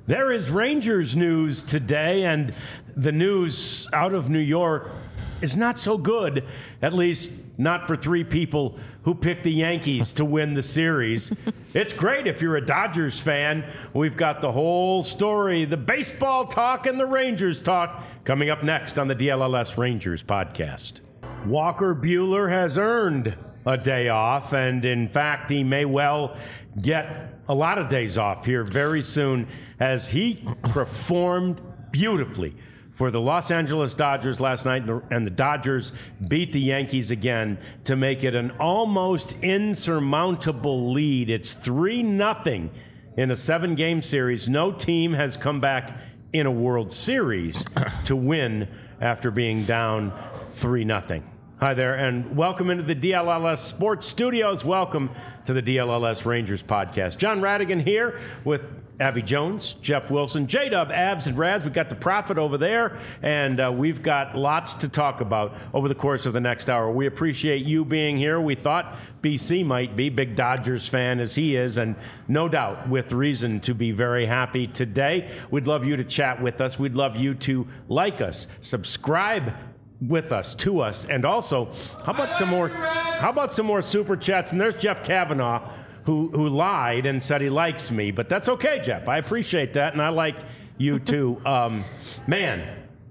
There is Rangers news today, and the news out of New York is not so good, at least not for three people who picked the Yankees to win the series. It's great if you're a Dodgers fan. We've got the whole story, the baseball talk and the Rangers talk, coming up next on the DLLS Rangers podcast. Walker Buehler has earned a day off, and in fact, he may well get a lot of days off here very soon as he performed beautifully for the Los Angeles Dodgers last night, and the Dodgers beat the Yankees again to make it an almost insurmountable lead. It's 3-0 in a 7-game series. No team has come back in a World Series to win after being down 3-0. Hi there, and welcome into the DLLS Sports Studios. Welcome to the DLLS Rangers podcast. John Radigan here with Abby Jones, Jeff Wilson, J-Dub, Abs, and Rads. We've got the Prophet over there, and we've got lots to talk about over the course of the next hour. We appreciate you being here. We thought BC might be, big Dodgers fan as he is, and no doubt with reason to be very happy today. We'd love you to chat with us. We'd love you to like us, subscribe with us, to us, and also, how about some more super chats? And there's Jeff Kavanaugh, who lied and said he likes me, but that's okay, Jeff. I appreciate that, and I like you too. Man,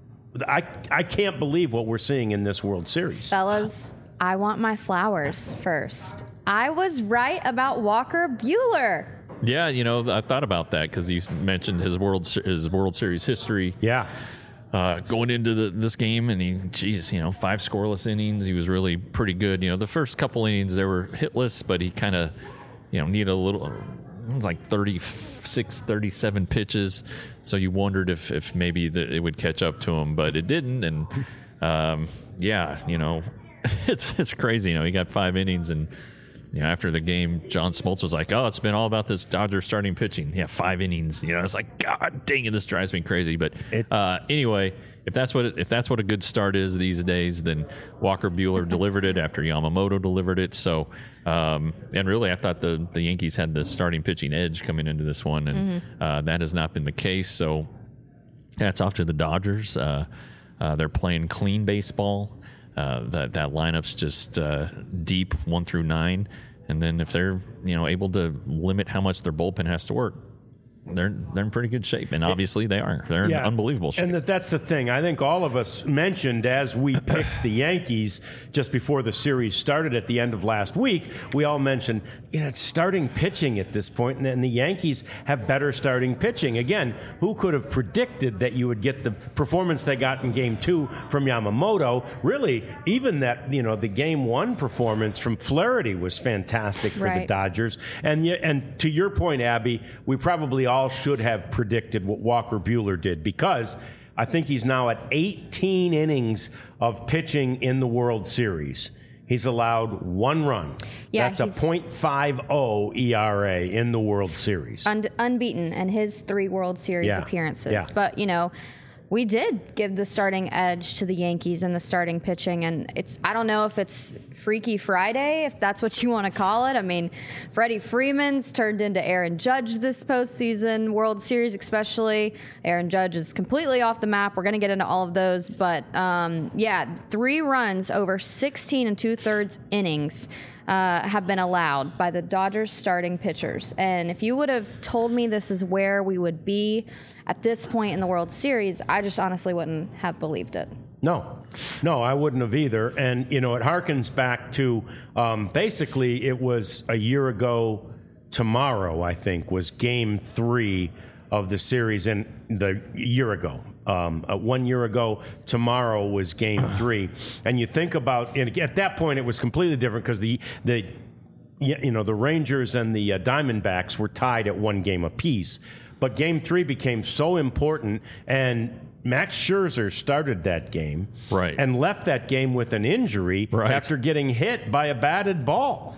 I can't believe what we're seeing in this World Series. Fellas, I want my flowers first. I was right about Walker Buehler. Yeah, you know, I thought about that because you mentioned his World Series history. Yeah. Going into this game, and 5 scoreless innings. He was really pretty good. You know, the first couple innings, they were hitless, but he kind of, needed a little, it was like 36, 37 pitches. So you wondered if maybe it would catch up to him, but it didn't. And, it's crazy. He got 5 innings, and, after the game, John Smoltz was like, "Oh, it's been all about this Dodger starting pitching. Yeah, 5 innings. It's like, God dang it, this drives me crazy." But anyway, if that's what a good start is these days, then Walker Buehler delivered it after Yamamoto delivered it. So, and really, I thought the Yankees had the starting pitching edge coming into this one, and that has not been the case. So, hats off to the Dodgers. They're playing clean baseball. That lineup's just deep 1 through 9, and then if they're able to limit how much their bullpen has to work, they're in pretty good shape, and obviously they're in unbelievable shape. And that's the thing. I think all of us mentioned as we picked the Yankees just before the series started at the end of last week. We all mentioned it's starting pitching at this point, and the Yankees have better starting pitching. Again, who could have predicted that you would get the performance they got in Game 2 from Yamamoto? Really, even that the Game 1 performance from Flaherty was fantastic for the Dodgers. And to your point, Abby, we probably all should have predicted what Walker Buehler did, because I think he's now at 18 innings of pitching in the World Series. He's allowed 1 run. Yeah, that's a .50 ERA in the World Series. Unbeaten in his 3 World Series appearances. Yeah. But, we did give the starting edge to the Yankees in the starting pitching, and I don't know if it's Freaky Friday, if that's what you want to call it. I mean, Freddie Freeman's turned into Aaron Judge this postseason, World Series especially. Aaron Judge is completely off the map. We're going to get into all of those, but 3 runs over 16 2/3 innings have been allowed by the Dodgers starting pitchers. And if you would have told me this is where we would be at this point in the World Series, I just honestly wouldn't have believed it. No, I wouldn't have either. And, it harkens back to basically it was a year ago tomorrow, I think, was Game 3 of the series in the year ago. 1 year ago tomorrow was Game 3. And you think about, and at that point it was completely different because the Rangers and the Diamondbacks were tied at 1 game apiece. But Game 3 became so important, and Max Scherzer started that game and left that game with an injury after getting hit by a batted ball.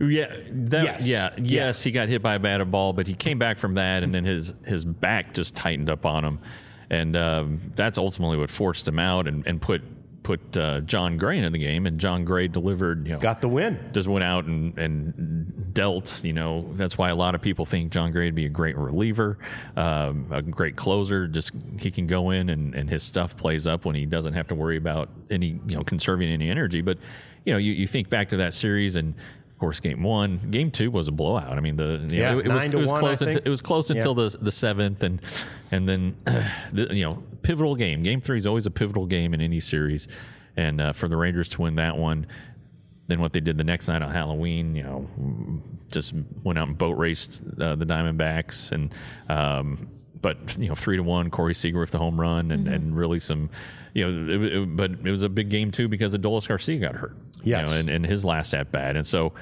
Yes, he got hit by a batted ball, but he came back from that, and then his back just tightened up on him, and that's ultimately what forced him out and put put John Gray into the game, and John Gray delivered. Got the win. Just went out and dealt. That's why a lot of people think John Gray would be a great reliever, a great closer. Just he can go in and his stuff plays up when he doesn't have to worry about any conserving any energy. But you think back to that series and. Of course, game 1, game 2 was a blowout. I mean, it was close until the seventh, and then pivotal game. Game 3 is always a pivotal game in any series, and for the Rangers to win that one, then what they did the next night on Halloween, just went out and boat raced the Diamondbacks, and but 3-1, Corey Seager with the home run, and really some, but it was a big game too because Adolis Garcia got hurt. Yes. In his last at bat, and so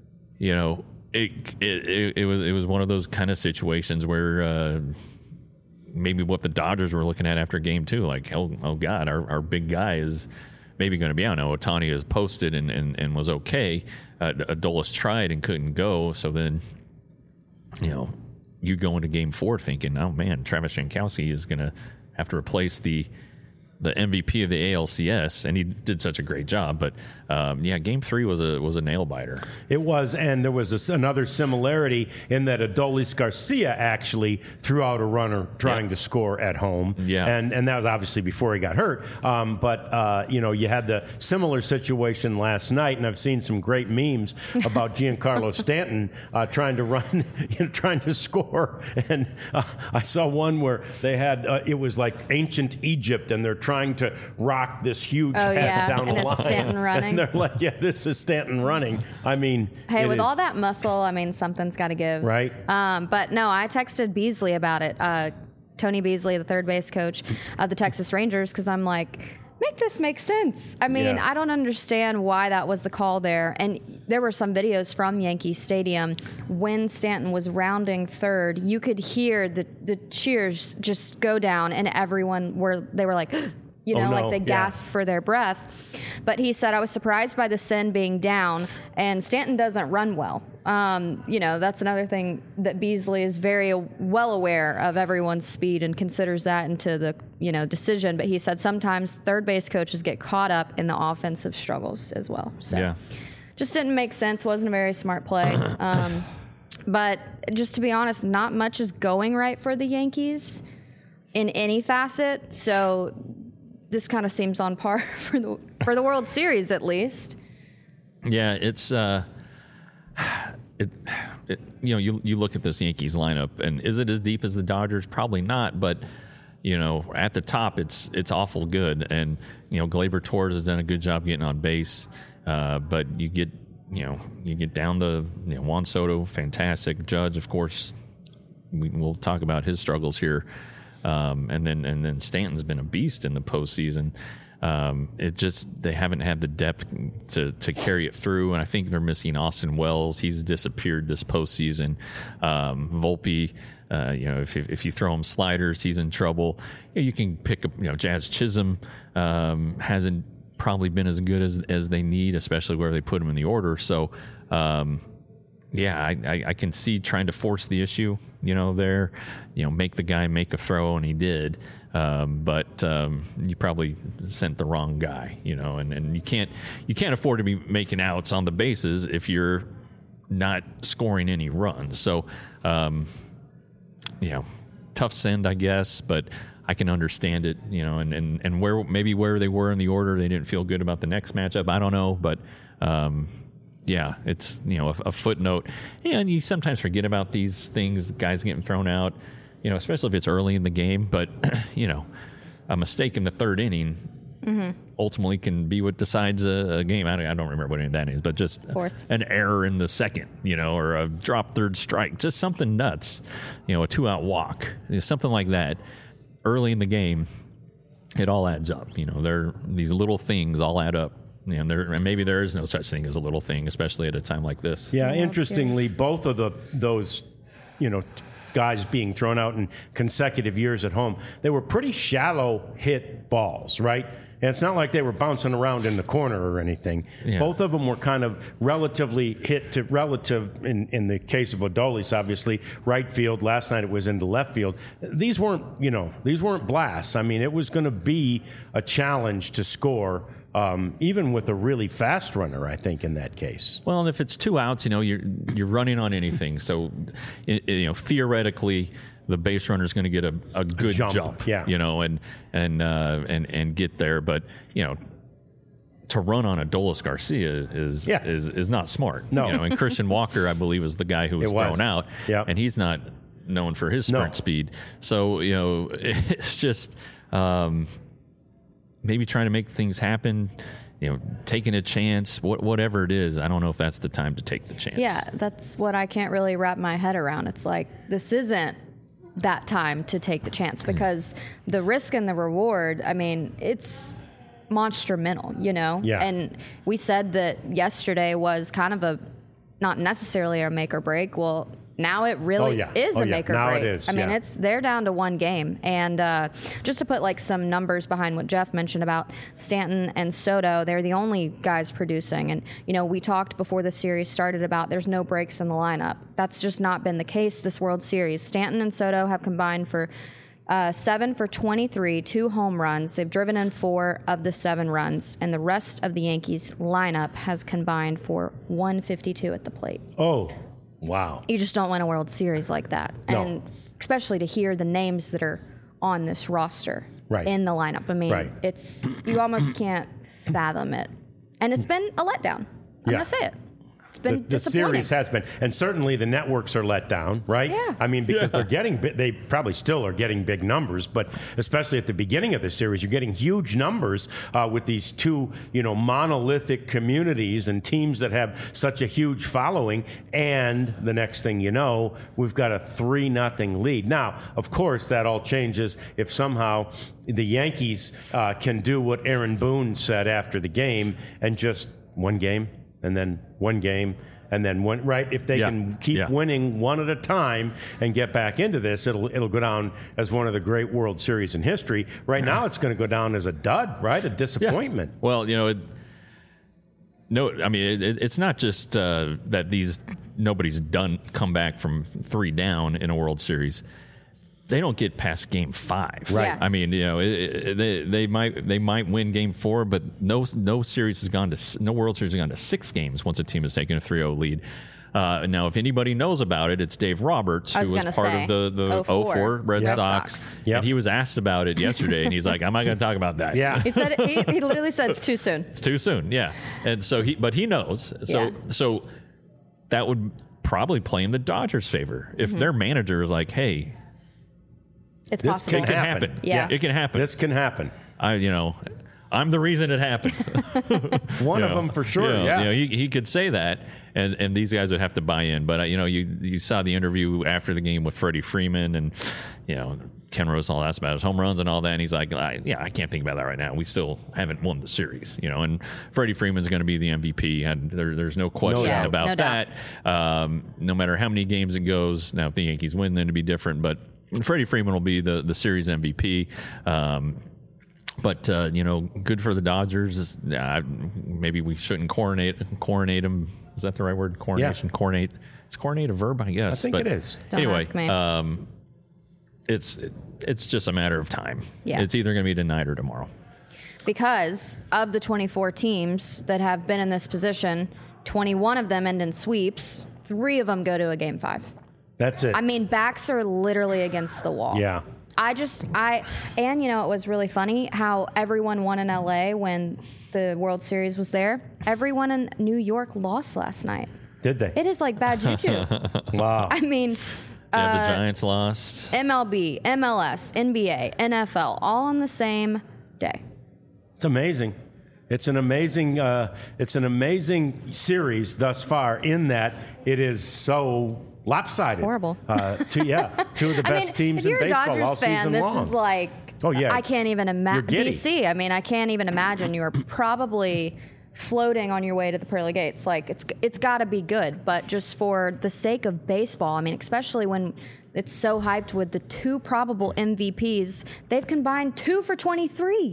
it was one of those kind of situations where maybe what the Dodgers were looking at after game 2, like oh God, our big guy is maybe going to be out. Now Ohtani has posted and was okay. Adolis tried and couldn't go, so then you go into game 4 thinking, oh man, Travis Jankowski is going to have to replace the MVP of the ALCS, and he did such a great job. But game 3 was a nail biter. It was, and there was another similarity in that Adolis Garcia actually threw out a runner trying to score at home. Yeah, and that was obviously before he got hurt. But you had the similar situation last night, and I've seen some great memes about Giancarlo Stanton trying to run, trying to score. And I saw one where they had it was like ancient Egypt, and they're trying to rock this huge head down and the line. Stanton running. And they're like, this is Stanton running. I mean, hey, with all that muscle, something's got to give. Right. But no, I texted Beasley about it. Tony Beasley, the third base coach of the Texas Rangers, because I'm like, make this make sense. I don't understand why that was the call there. And there were some videos from Yankee Stadium when Stanton was rounding third. You could hear the cheers just go down, and they were like, like they gasped for their breath. But he said, I was surprised by the Sin being down, and Stanton doesn't run well. That's another thing that Beasley is very well aware of everyone's speed and considers that into the, decision. But he said sometimes third base coaches get caught up in the offensive struggles as well. So just didn't make sense. Wasn't a very smart play. But just to be honest, not much is going right for the Yankees in any facet. So this kind of seems on par for the World Series, at least. Yeah, it's you look at this Yankees lineup, and is it as deep as the Dodgers? Probably not, but at the top, it's awful good, and Gleyber Torres has done a good job getting on base, but you get down to Juan Soto, fantastic. Judge, of course, we'll talk about his struggles here. And then Stanton's been a beast in the postseason. They haven't had the depth to carry it through, and I think they're missing Austin Wells. He's disappeared this postseason. Volpe, if you throw him sliders, he's in trouble. You can pick up, Jazz Chisholm hasn't probably been as good as they need, especially where they put him in the order. So. I can see trying to force the issue, there, make the guy make a throw, and he did. But you probably sent the wrong guy, and you can't afford to be making outs on the bases if you're not scoring any runs. So, tough send, I guess, but I can understand it, and where they were in the order, they didn't feel good about the next matchup. I don't know, but, it's, a footnote. And you sometimes forget about these things, guys getting thrown out, especially if it's early in the game. But, a mistake in the third inning ultimately can be what decides a game. I don't remember what inning that is, but just an error in the second, or a drop third strike, just something nuts, a 2-out walk, something like that. Early in the game, it all adds up. These little things all add up. And maybe there is no such thing as a little thing, especially at a time like this. Yeah, interestingly, both of those guys being thrown out in consecutive years at home, they were pretty shallow hit balls, right? And it's not like they were bouncing around in the corner or anything. Yeah. Both of them were kind of relatively hit to relative, in the case of Adolis, obviously, right field. Last night it was into left field. These weren't blasts. I mean, it was going to be a challenge to score, even with a really fast runner, I think, in that case. Well, and if it's 2 outs, you're running on anything. So, theoretically, the base runner is going to get a good jump, yeah. And get there. But to run on Adolis Garcia is not smart. No. And Christian Walker, I believe, was the guy who was thrown out, and he's not known for his sprint speed. So it's just maybe trying to make things happen. Taking a chance, whatever it is. I don't know if that's the time to take the chance. Yeah, that's what I can't really wrap my head around. It's like, this isn't that time to take the chance, because the risk and the reward, I mean, it's monumental, Yeah. And we said that yesterday was kind of not necessarily a make or break. Well, now it really is a make or now break. It is. I mean, they're down to one game. And just to put like some numbers behind what Jeff mentioned about Stanton and Soto, they're the only guys producing. And, we talked before the series started about there's no breaks in the lineup. That's just not been the case this World Series. Stanton and Soto have combined for 7 for 23, 2 home runs. They've driven in 4 of the 7 runs. And the rest of the Yankees lineup has combined for 152 at the plate. Oh, wow. You just don't win a World Series like that. No. And especially to hear the names that are on this roster in the lineup. I mean, you almost can't fathom it. And it's been a letdown. I'm going to say it. It's been the disappointing. series has been, and certainly the networks are let down, right? Yeah. I mean, because they probably still are getting big numbers, but especially at the beginning of the series, you're getting huge numbers with these two, monolithic communities and teams that have such a huge following. And the next thing you know, we've got a 3-0 lead. Now, of course, that all changes if somehow the Yankees can do what Aaron Boone said after the game and just one game. And then one game, and then one. Right? If they can keep winning one at a time and get back into this, it'll go down as one of the great World Series in history. Right now, it's going to go down as a dud, right? A disappointment. Yeah. Well, it's not just that nobody's come back from 3 down in a World Series. They don't get past Game 5. Right. Yeah. I mean, they might win Game 4, but no World Series has gone to 6 games once a team has taken a 3-0 lead. Now, if anybody knows about it, it's Dave Roberts, who was part of the 04 Red Sox. Yep. And he was asked about it yesterday, and he's like, I'm not going to talk about that. Yeah. He said he literally said it's too soon. It's too soon, yeah. And so he knows. So that would probably play in the Dodgers' favor if their manager is like, hey, it's possible. It can happen. Yeah. It can happen. This can happen. I'm the reason it happened. One of them for sure. He could say that, and these guys would have to buy in. But you saw the interview after the game with Freddie Freeman, and Ken Rosal asked about his home runs and all that, and he's like, I can't think about that right now. We still haven't won the series, And Freddie Freeman's going to be the MVP, and there's no question about that. No matter how many games it goes. Now, if the Yankees win, then it'd be different, but Freddie Freeman will be the series MVP. But good for the Dodgers. Maybe we shouldn't coronate them. Is that the right word? Coronation? Yeah. Coronate. Is coronate a verb? I guess. I think it is. Don't ask me. It's just a matter of time. Yeah. It's either going to be tonight or tomorrow. Because of the 24 teams that have been in this position, 21 of them end in sweeps. 3 of them go to a Game 5. That's it. I mean, backs are literally against the wall. Yeah. And it was really funny how everyone won in LA when the World Series was there. Everyone in New York lost last night. Did they? It is like bad juju. Wow. I mean, the Giants lost. MLB, MLS, NBA, NFL, all on the same day. It's amazing. It's an amazing series thus far in that it is so lopsided. Horrible. Two of the best teams in baseball Dodgers all fan, season long. This is like, I can't even imagine. BC, I can't even imagine. You are probably floating on your way to the pearly gates. Like, it's got to be good, but just for the sake of baseball, especially when it's so hyped with the 2 probable MVPs, they've combined 2 for 23.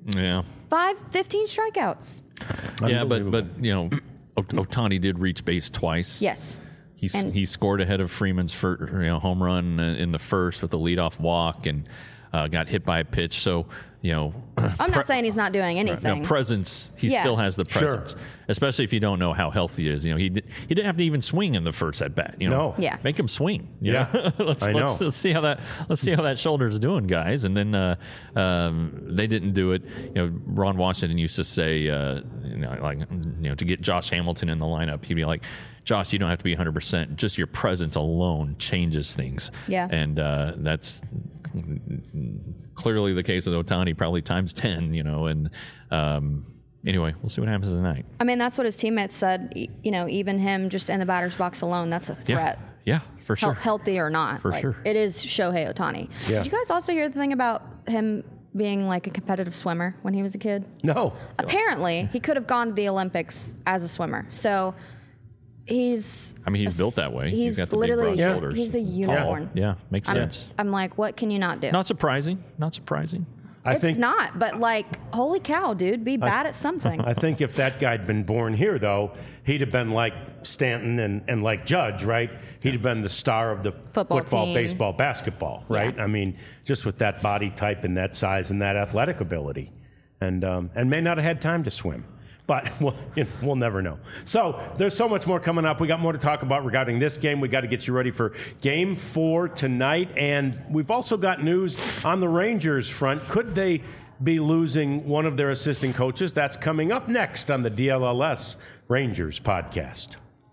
Yeah. 15 strikeouts. Yeah, but Ohtani did reach base twice. Yes. He scored ahead of Freeman's home run in the first with a leadoff walk and got hit by a pitch. So, I'm not saying he's not doing anything. No, presence. He still has the presence, especially if you don't know how healthy he is. He didn't have to even swing in the first at bat. No. Yeah. Make him swing. Yeah. Let's see how that shoulder's doing, guys. And then they didn't do it. Ron Washington used to say, to get Josh Hamilton in the lineup, he'd be like, Josh, you don't have to be 100%. Just your presence alone changes things. Yeah. And that's clearly the case with Ohtani, probably times 10, and anyway, we'll see what happens tonight. I mean, that's what his teammates said. Even him just in the batter's box alone, that's a threat. Yeah, for sure. Healthy or not. For sure. It is Shohei Ohtani. Yeah. Did you guys also hear the thing about him being like a competitive swimmer when he was a kid? No. Apparently, he could have gone to the Olympics as a swimmer. So he's built that way. He's got the literally big broad shoulders. He's a unicorn. Yeah, makes sense. I'm like, what can you not do? Not surprising. It's not, but holy cow, dude, be bad at something. I think if that guy'd been born here, though, he'd have been like Stanton and like Judge, right? He'd have been the star of the football, team. baseball, basketball, right? Yeah. Just with that body type and that size and that athletic ability, and may not have had time to swim. But we'll never know. So there's so much more coming up. We got more to talk about regarding this game. We got to get you ready for Game 4 tonight. And we've also got news on the Rangers front. Could they be losing one of their assistant coaches? That's coming up next on the DLLS Rangers podcast.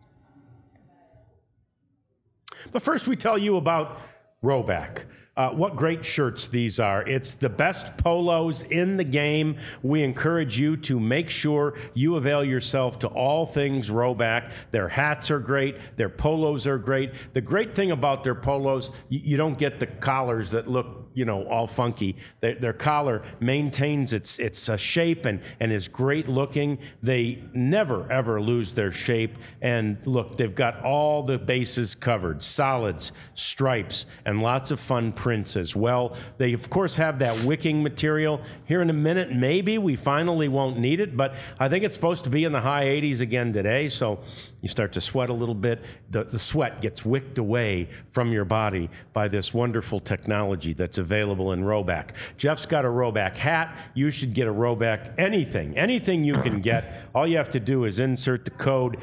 But first, we tell you about Rhoback. What great shirts these are. It's the best polos in the game. We encourage you to make sure you avail yourself to all things Rhoback. Their hats are great. Their polos are great. The great thing about their polos, you don't get the collars that look, all funky. Their collar maintains its shape and is great looking. They never, ever lose their shape. And look, they've got all the bases covered, solids, stripes, and lots of fun prints as well. They, of course, have that wicking material. Here in a minute, maybe we finally won't need it, but I think it's supposed to be in the high 80s again today, so you start to sweat a little bit. The sweat gets wicked away from your body by this wonderful technology that's available in Rhoback. Jeff's got a Rhoback hat. You should get a Rhoback anything you can get. All you have to do is insert the code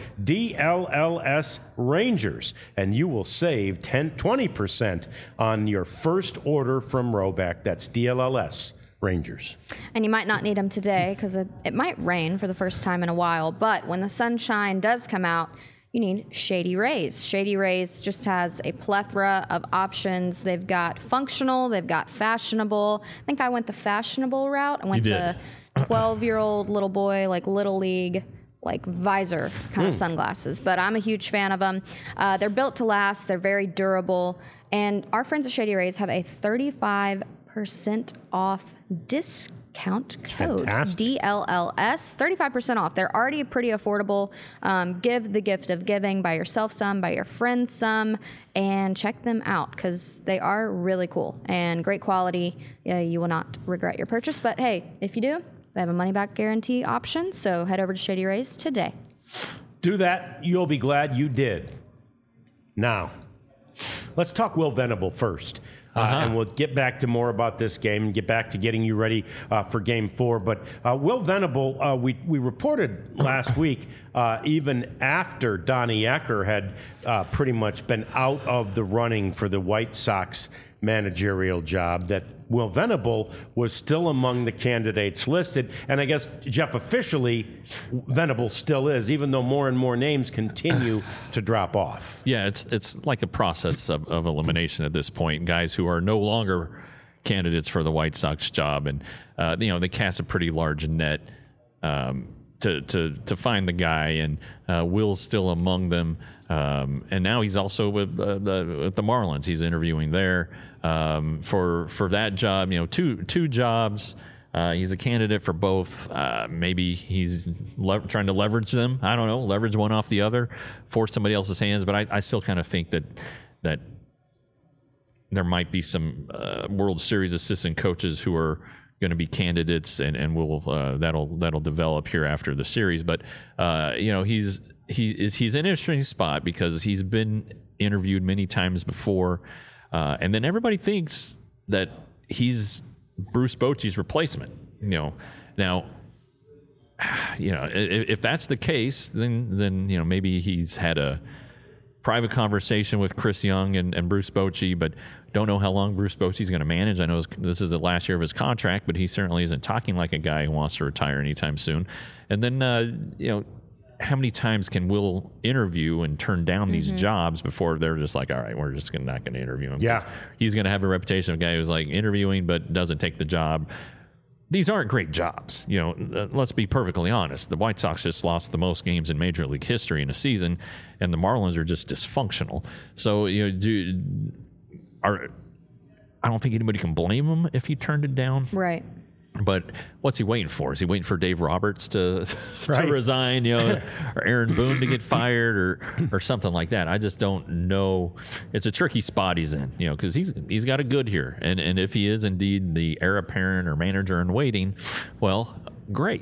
DLLS Rangers, and you will save 20% on your first order from Rhoback. That's DLLS Rangers. And you might not need them today because it might rain for the first time in a while, but when the sunshine does come out, you need Shady Rays. Shady Rays just has a plethora of options. They've got functional, they've got fashionable. I think I went the fashionable route. I went the 12-year-old little boy, Little League, visor kind of sunglasses. But I'm a huge fan of them. They're built to last. They're very durable. And our friends at Shady Rays have a 35% off discount code. Fantastic. DLLS, 35% off. They're already pretty affordable. Give the gift of giving. Buy yourself some, buy your friends some, and check them out because they are really cool and great quality. You will not regret your purchase. But hey, if you do, they have a money-back guarantee option, so head over to Shady Rays today. Do that. You'll be glad you did. Now, let's talk Will Venable first. And we'll get back to more about this game and get back to getting you ready for Game 4. But Will Venable, we reported last week, even after Donnie Ecker had pretty much been out of the running for the White Sox managerial job, that Will Venable was still among the candidates listed. And I guess, Jeff, officially, Venable still is, even though more and more names continue to drop off. Yeah, it's like a process of elimination at this point. Guys who are no longer candidates for the White Sox job. And, they cast a pretty large net to find the guy. And Will's still among them. And now he's also with the Marlins. He's interviewing there for that job. Two jobs. He's a candidate for both. Maybe he's trying to leverage them. I don't know, leverage one off the other, force somebody else's hands. But I still kind of think that there might be some World Series assistant coaches who are going to be candidates, and we'll that'll develop here after the series. But he's in an interesting spot because he's been interviewed many times before, and then everybody thinks that he's Bruce Bochy's replacement. Now, if that's the case, then maybe he's had a private conversation with Chris Young and Bruce Bochy, but don't know how long Bruce Bochy's going to manage. I know this is the last year of his contract, but he certainly isn't talking like a guy who wants to retire anytime soon. And then, how many times can Will interview and turn down these jobs before they're just like, all right, we're just not going to interview him? Yeah. He's going to have a reputation of a guy who's like interviewing but doesn't take the job. These aren't great jobs. Let's be perfectly honest. The White Sox just lost the most games in Major League history in a season, and the Marlins are just dysfunctional. So, I don't think anybody can blame him if he turned it down. Right. But what's he waiting for? Is he waiting for Dave Roberts to resign, or Aaron Boone to get fired or something like that? I just don't know. It's a tricky spot he's in, because he's got it good here. And if he is indeed the heir apparent or manager in waiting, well, great.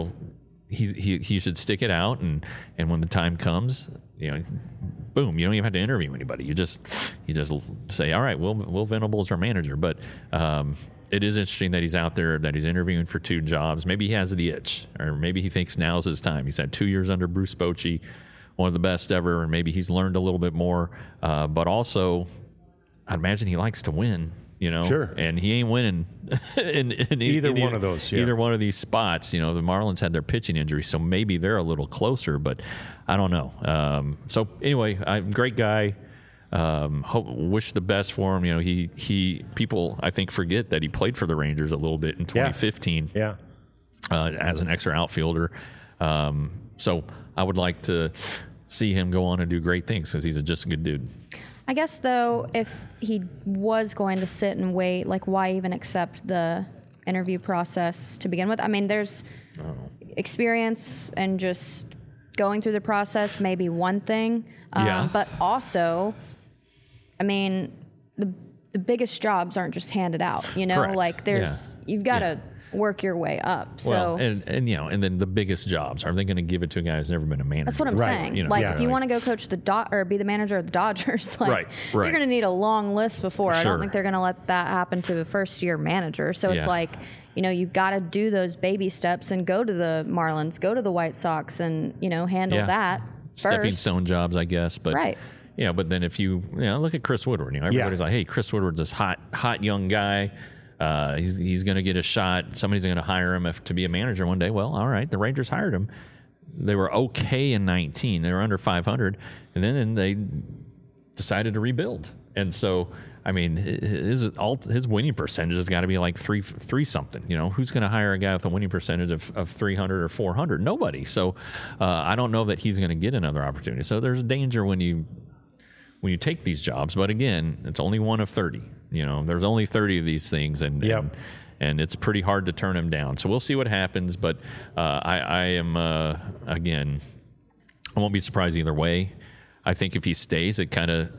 He should stick it out, and when the time comes, boom, you don't even have to interview anybody. You just say, all right, Will Venable's our manager. But it is interesting that he's out there, that he's interviewing for 2 jobs. Maybe he has the itch, or maybe he thinks now's his time. He's had 2 years under Bruce Bochy, one of the best ever, and maybe he's learned a little bit more. But also, I'd imagine he likes to win, Sure. And he ain't winning in either one of those. Yeah. Either one of these spots. The Marlins had their pitching injury, so maybe they're a little closer, but I don't know. So anyway, great guy. Wish the best for him. He people I think forget that he played for the Rangers a little bit in 2015. Yeah. As an extra outfielder. So I would like to see him go on and do great things because he's just a good dude. I guess though, if he was going to sit and wait, like why even accept the interview process to begin with? I mean, there's experience and just going through the process may be one thing, but also, I mean, the biggest jobs aren't just handed out, Correct. Like you've got to work your way up. So, well, and then the biggest jobs, are they going to give it to a guy who's never been a manager? That's what I'm saying. If you want to go coach or be the manager of the Dodgers, you're going to need a long list before. Sure. I don't think they're going to let that happen to a first-year manager. So it's you've got to do those baby steps and go to the Marlins, go to the White Sox, and handle that stepping first. stone jobs, I guess. But right. But then if you look at Chris Woodward, everybody's like, hey, Chris Woodward's this hot young guy. He's going to get a shot. Somebody's going to hire him to be a manager one day. Well, all right, the Rangers hired him. They were okay in 19. They were under 500, and then they decided to rebuild. And so, I mean, his winning percentage has got to be like three something. Who's going to hire a guy with a winning percentage of 300 or 400? Nobody. So I don't know that he's going to get another opportunity. So there's danger when you take these jobs. But again, it's only one of 30. There's only 30 of these things, and it's pretty hard to turn them down. So we'll see what happens. But I am again, I won't be surprised either way. I think if he stays, it kind of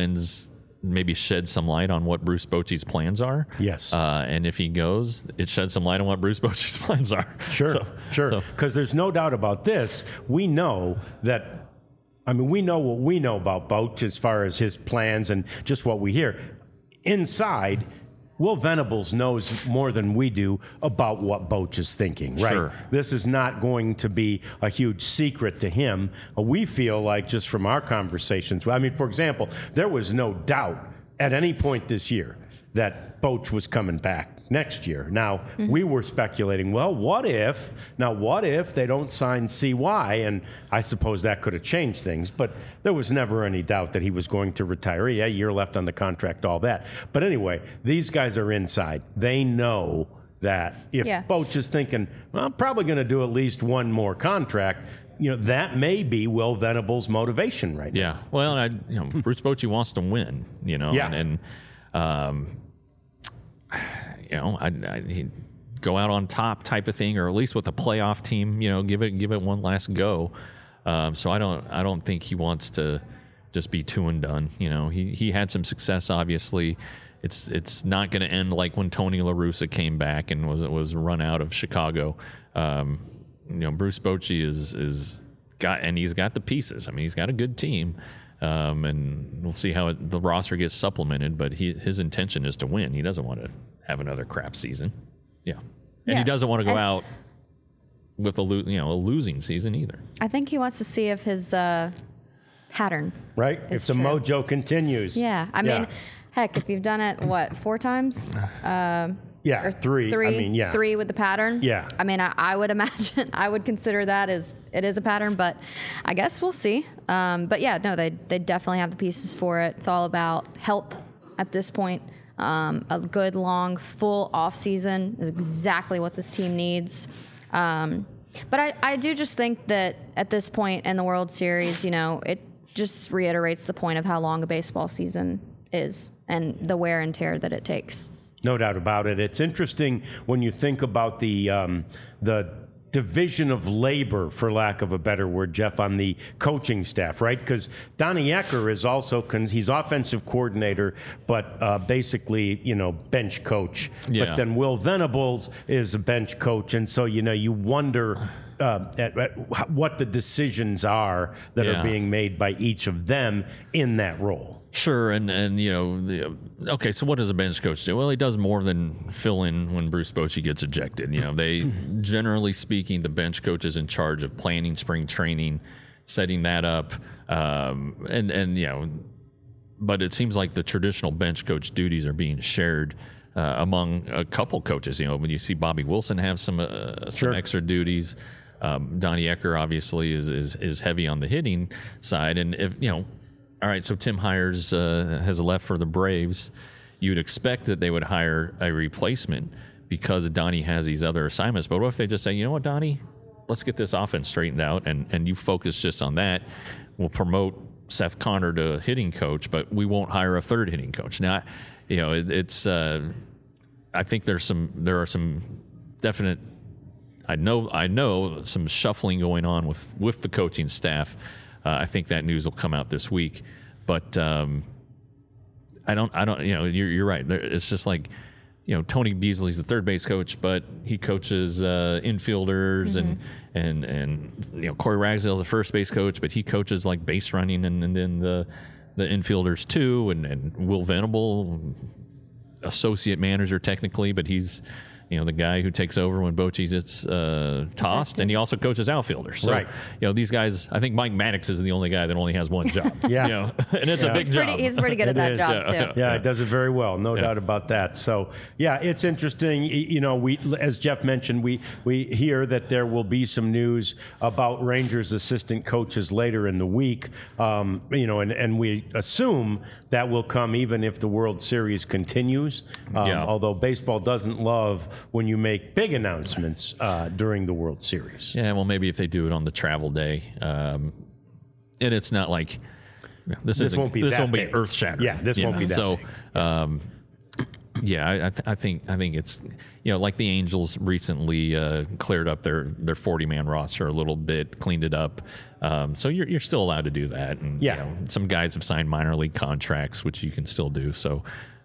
maybe sheds some light on what Bruce Bochy's plans are. Yes. And if he goes, it sheds some light on what Bruce Bochy's plans are. Sure. Because there's no doubt about this. We know that. I mean, we know what we know about Boch as far as his plans and just what we hear. Inside, Will Venables knows more than we do about what Boch is thinking, right? Sure. This is not going to be a huge secret to him. We feel like, just from our conversations, I mean, for example, there was no doubt at any point this year that Boch was coming back next year. Now, we were speculating, well, what if they don't sign CY? And I suppose that could have changed things, but there was never any doubt that he was going to retire. Yeah, a year left on the contract, all that. But anyway, these guys are inside. They know that if Boch is thinking, well, I'm probably going to do at least one more contract, that may be Will Venable's motivation right now. Yeah. Well, Bruce Bochy wants to win, and he'd go out on top type of thing, or at least with a playoff team, give it one last go. So I don't think he wants to just be two and done. He had some success, obviously, it's not going to end like when Tony La Russa came back and was run out of Chicago. Bruce Bochy he's got the pieces. I mean, he's got a good team. And we'll see how the roster gets supplemented, but his intention is to win. He doesn't want to have another crap season. Yeah. And he doesn't want to go out with a losing season either. I think he wants to see if his pattern if the mojo continues. Yeah. I mean, heck, if you've done it, 4 times? Or 3. I mean, 3 with the pattern. Yeah. I mean, I would imagine, I would consider that as it is a pattern, but I guess we'll see. But yeah, no, they definitely have the pieces for it. It's all about health at this point. A good, long, full off season is exactly what this team needs. But I do just think that at this point in the World Series, it just reiterates the point of how long a baseball season is and the wear and tear that it takes. No doubt about it. It's interesting when you think about the division of labor, for lack of a better word, Jeff, on the coaching staff, right? Because Donnie Ecker is also he's offensive coordinator, but basically, bench coach. Yeah. But then Will Venables is a bench coach, and so you wonder at what the decisions are that are being made by each of them in that role. Sure, and okay, so what does a bench coach do? Well, he does more than fill in when Bruce Bochy gets ejected. They, generally speaking, the bench coach is in charge of planning spring training, setting that up, but it seems like the traditional bench coach duties are being shared among a couple coaches. When you see Bobby Wilson have some extra duties, Donnie Ecker obviously is heavy on the hitting side, and if all right, so Tim Hires has left for the Braves. You'd expect that they would hire a replacement because Donnie has these other assignments. But what if they just say, you know what, Donnie, let's get this offense straightened out, and you focus just on that. We'll promote Seth Connor to hitting coach, but we won't hire a third hitting coach. Now, it's I think there are some definite. I know some shuffling going on with the coaching staff. I think that news will come out this week, but I don't. You're right. It's just like, Tony Beasley's the third base coach, but he coaches infielders, and Corey Ragsdale's the first base coach, but he coaches like base running and then the infielders too, and Will Venable, associate manager technically, but he's the guy who takes over when Bochy gets tossed, and he also coaches outfielders. So, these guys, I think Mike Maddox is the only guy that only has one job. And it's a big job. He's pretty good at that job, too. Yeah, it does it very well, no doubt about that. So, it's interesting. We, as Jeff mentioned, we hear that there will be some news about Rangers assistant coaches later in the week, and we assume that will come even if the World Series continues, although baseball doesn't love when you make big announcements during the World Series. Yeah, well, maybe if they do it on the travel day, and it's not like this won't be earth shattering. Yeah, this won't be that big. I think it's like the Angels recently cleared up their 40-man roster a little bit, cleaned it up. So you're still allowed to do that, and some guys have signed minor league contracts, which you can still do. So.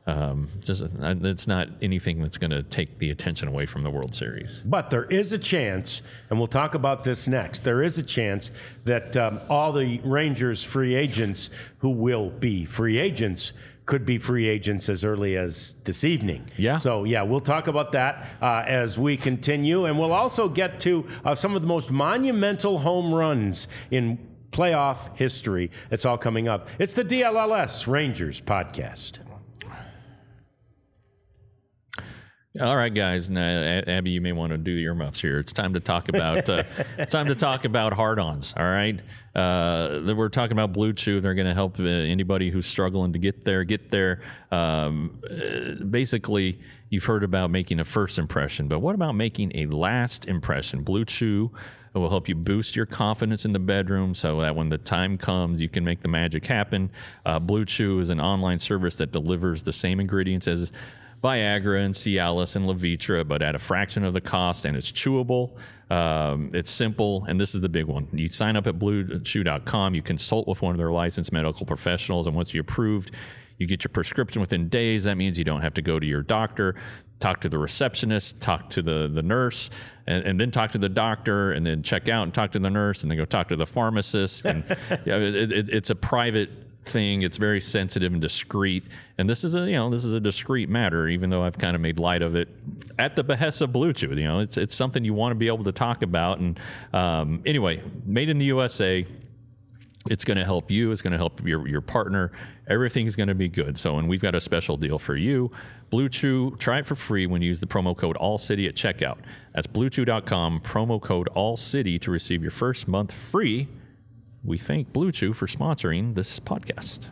It's not anything that's going to take the attention away from the World Series. But there is a chance, and we'll talk about this next, there is a chance that all the Rangers free agents who will be free agents could be free agents as early as this evening. Yeah. So, we'll talk about that as we continue. And we'll also get to some of the most monumental home runs in playoff history. It's all coming up. It's the DLLS Rangers podcast. All right, guys. Now, Abby, you may want to do your earmuffs here. It's time to talk about hard-ons. All right, we're talking about Blue Chew. They're going to help anybody who's struggling to get there. Basically, you've heard about making a first impression, but what about making a last impression? Blue Chew will help you boost your confidence in the bedroom so that when the time comes, you can make the magic happen. Blue Chew is an online service that delivers the same ingredients as Viagra and Cialis and Levitra, but at a fraction of the cost, and it's chewable. It's simple, and this is the big one. You sign up at BlueChew.com. You consult with one of their licensed medical professionals, and once you're approved, You get your prescription within days. That means you don't have to go to your doctor, talk to the receptionist, talk to the nurse, and then talk to the doctor, and then check out and talk to the nurse, and then go talk to the pharmacist. And it's a private thing. It's very sensitive and discreet. And this is a discreet matter, even though I've kind of made light of it at the behest of Blue Chew. It's something you want to be able to talk about. And anyway, made in the USA. It's going to help you. It's going to help your partner. Everything's going to be good. So, and we've got a special deal for you. Blue Chew, try it for free when you use the promo code ALLCITY at checkout. That's bluechew.com, promo code ALLCITY to receive your first month free. We thank Blue Chew for sponsoring this podcast.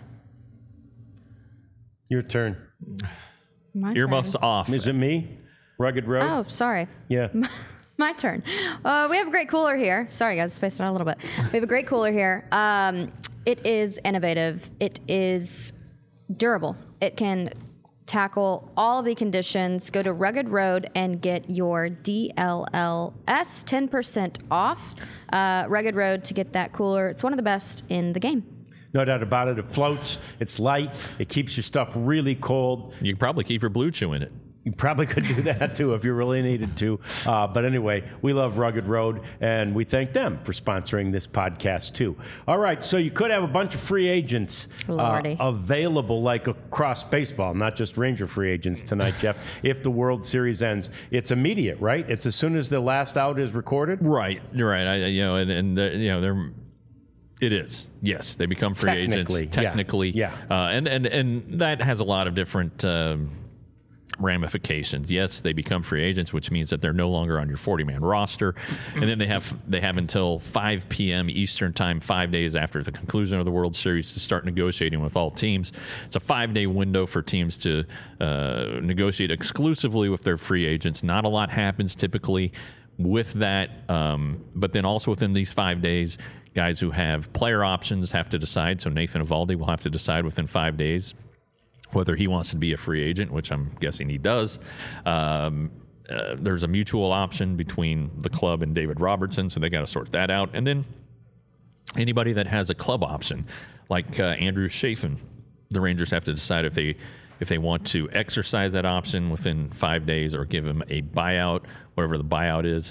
Your turn. My Earmuffs turn. off. Is it me? Rugged Road? Oh, sorry. Yeah. My turn. We have a great cooler here. Sorry, guys, spaced out a little bit. We have a great cooler here. It is innovative. It is durable. It can tackle all of the conditions. Go to Rugged Road and get your DLLS 10% off. Rugged Road to get that cooler. It's one of the best in the game. No doubt about it. It floats. It's light. It keeps your stuff really cold. You can probably keep your Blue Chew in it. You probably could do that, too, if you really needed to. But anyway, we love Rugged Road, and we thank them for sponsoring this podcast, too. All right, so you could have a bunch of free agents available, like across baseball, not just Ranger free agents tonight, Jeff, if the World Series ends. It's immediate, right? It's as soon as the last out is recorded? Right. You're right. They're... It is. Yes, they become free agents. Technically. Yeah. And that has a lot of different... ramifications. Yes, they become free agents, which means that they're no longer on your 40-man roster, and then they have until 5 p.m. Eastern time, 5 days after the conclusion of the World Series, to start negotiating with all teams. It's a 5-day window for teams to negotiate exclusively with their free agents. Not a lot happens typically with that, but then also within these 5 days, guys who have player options have to decide. So Nathan Eovaldi will have to decide within 5 days whether he wants to be a free agent, which I'm guessing he does. There's a mutual option between the club and David Robertson, so they got to sort that out. And then anybody that has a club option, like Andrew Chafin, the Rangers have to decide if they want to exercise that option within 5 days or give him a buyout, whatever the buyout is.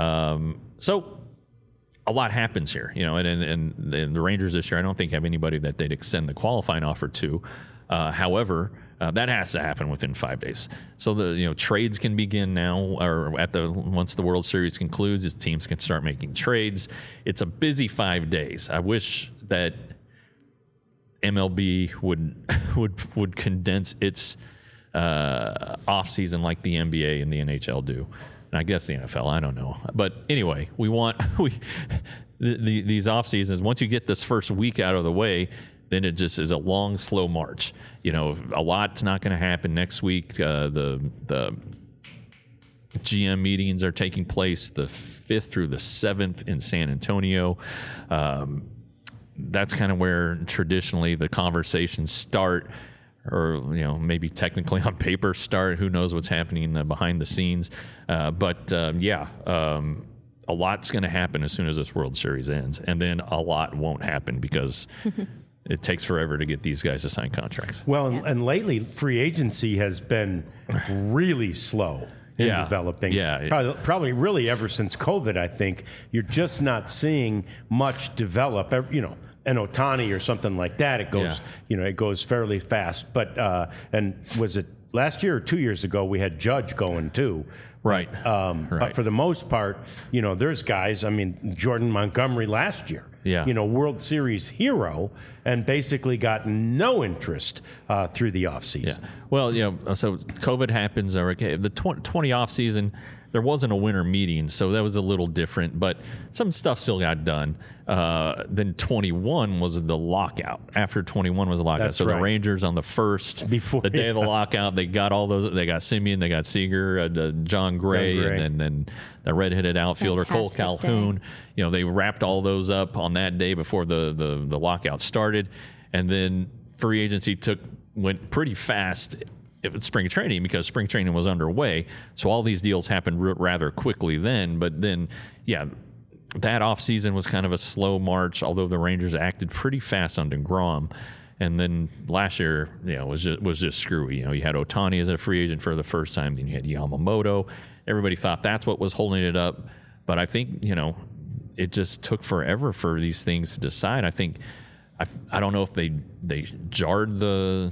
So a lot happens here, and the Rangers this year, I don't think have anybody that they'd extend the qualifying offer to. However, that has to happen within 5 days. So the trades can begin now, or once the World Series concludes, teams can start making trades. It's a busy 5 days. I wish that MLB would condense its off season like the NBA and the NHL do, and I guess the NFL. I don't know, but anyway, these off seasons. Once you get this first week out of the way, then it just is a long, slow march. A lot's not going to happen next week. The GM meetings are taking place the 5th through the 7th in San Antonio. That's kind of where traditionally the conversations start, or maybe technically on paper start. Who knows what's happening behind the scenes? But a lot's going to happen as soon as this World Series ends, and then a lot won't happen because it takes forever to get these guys to sign contracts. Well, and lately, free agency has been really slow in developing. Yeah. Probably really ever since COVID, I think. You're just not seeing much develop. An Ohtani or something like that, it goes, it goes fairly fast. But, and was it last year or 2 years ago, we had Judge going too. Right. But for the most part, there's guys, Jordan Montgomery last year, World Series hero, and basically got no interest through the offseason. Yeah. Well, so COVID happens. Okay, the 20 offseason, there wasn't a winter meeting, so that was a little different, but some stuff still got done. Then 21 was the lockout. After 21 was the lockout. That's so right. The Rangers on the first, the day of the lockout, they got all those. They got Semien, they got Seager, John Gray, and then the redheaded outfielder Cole Calhoun. Day. They wrapped all those up on that day before the lockout started, and then free agency went pretty fast. It was spring training because spring training was underway. So all these deals happened rather quickly then. But then, that offseason was kind of a slow march, although the Rangers acted pretty fast on DeGrom. And then last year, was just screwy. You had Ohtani as a free agent for the first time. Then you had Yamamoto. Everybody thought that's what was holding it up. But I think, it just took forever for these things to decide. I think, I don't know if they jarred the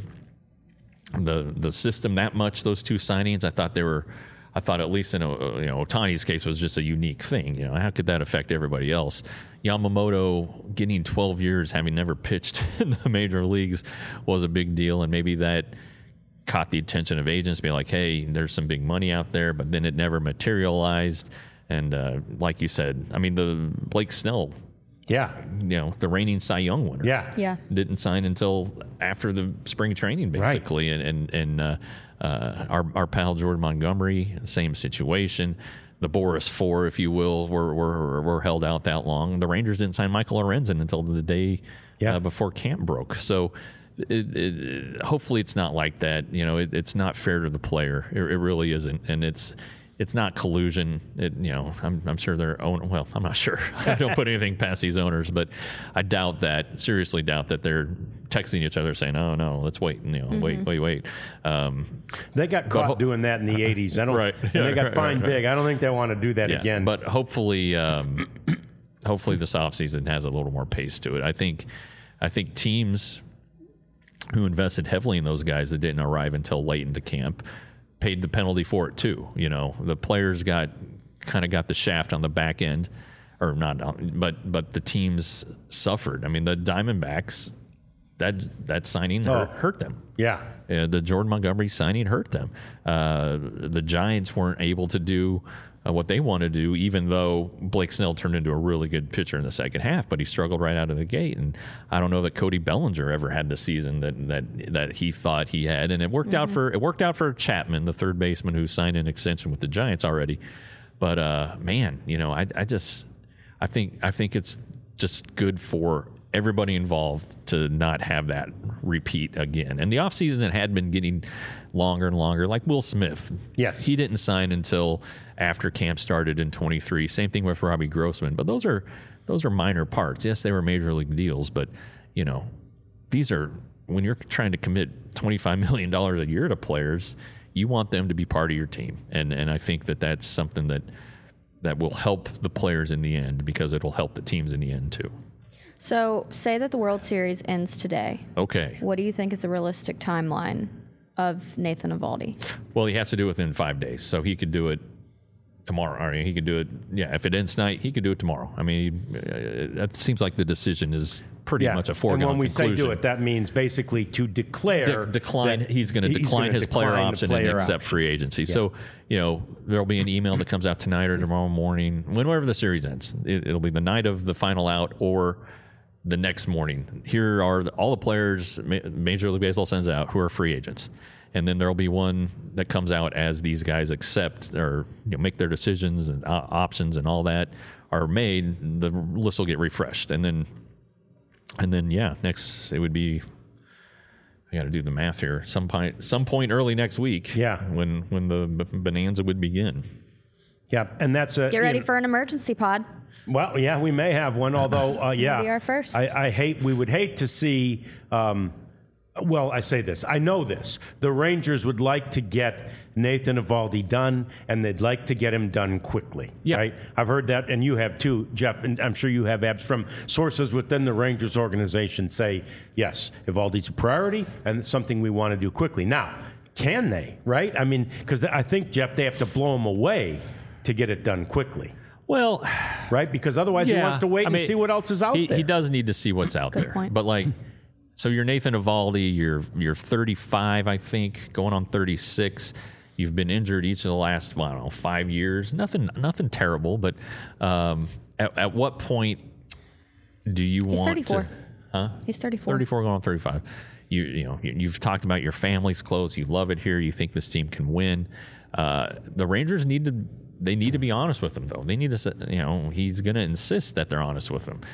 system that much, those two signings. I thought at least in Ohtani's case was just a unique thing. How could that affect everybody else? Yamamoto getting 12 years, having never pitched in the major leagues, was a big deal, and maybe that caught the attention of agents, being like, hey, there's some big money out there, but then it never materialized. And like you said, I mean, the Blake Snell, the reigning Cy Young winner, didn't sign until after the spring training, basically. Right. And our pal Jordan Montgomery, same situation. The Boris Four, if you will, were held out that long. The Rangers didn't sign Michael Lorenzen until the day before camp broke. So hopefully it's not like that. It's not fair to the player. It really isn't, and it's not collusion. I'm sure their own. Well, I'm not sure. I don't put anything past these owners, but I seriously doubt that they're texting each other saying, "Oh no, let's wait." Wait. They got caught doing that in the '80s. I don't. Right. And they got fined big. I don't think they want to do that again. But hopefully this offseason has a little more pace to it. I think teams who invested heavily in those guys that didn't arrive until late into camp paid the penalty for it too. The players got the shaft on the back end, or not, but the teams suffered. I mean, the Diamondbacks, that signing hurt them. Yeah. The Jordan Montgomery signing hurt them. The Giants weren't able to do what they wanted to do, even though Blake Snell turned into a really good pitcher in the second half, but he struggled right out of the gate. And I don't know that Cody Bellinger ever had the season that he thought he had. And it worked out for Chapman, the third baseman who signed an extension with the Giants already. But man, I think it's just good for everybody involved to not have that repeat again. And the offseason that had been getting longer and longer, like Will Smith. Yes. He didn't sign until after camp started in 23. Same thing with Robbie Grossman. But those are minor parts. Yes, they were major league deals, but these are, when you're trying to commit $25 million a year to players, you want them to be part of your team. And I think that's something that will help the players in the end, because it'll help the teams in the end too. So say that the World Series ends today. Okay. What do you think is a realistic timeline of Nathan Eovaldi? Well, he has to do it within 5 days. So he could do it tomorrow. Or he could do it, if it ends tonight, he could do it tomorrow. I mean, it seems like the decision is pretty much a foregone conclusion. And when we say do it, that means basically to declare decline. He's going to decline his player option and accept free agency. Yeah. So, there'll be an email that comes out tonight or tomorrow morning, whenever the series ends. It'll be the night of the final out or the next morning. Here are all the players Major League Baseball sends out who are free agents. And then there'll be one that comes out as these guys accept or make their decisions and options and all that are made. The list will get refreshed. And then next it would be, I got to do the math here, some point early next week. Yeah. When the bonanza would begin. Yeah, and that's a... Get ready for an emergency pod. Well, yeah, we may have one, although, Maybe our first. We would hate to see... I say this. I know this. The Rangers would like to get Nathan Eovaldi done, and they'd like to get him done quickly. Yeah. Right? I've heard that, and you have too, Jeff, and I'm sure you have abs from sources within the Rangers organization say, yes, Eovaldi's a priority, and it's something we want to do quickly. Now, can they, right? I mean, because I think, Jeff, they have to blow him away to get it done quickly. Well, right? Because otherwise he wants to wait and see what else is out there. He does need to see what's out there. Point. But so you're Nathan Eovaldi, you're 35, I think, going on 36. You've been injured each of the last, 5 years. Nothing terrible, but at what point do you want 34. to? Huh? He's 34. 34 going on 35. You've talked about your family's close. You love it here. You think this team can win. The Rangers need to be honest with him, though. They need to, he's going to insist that they're honest with him.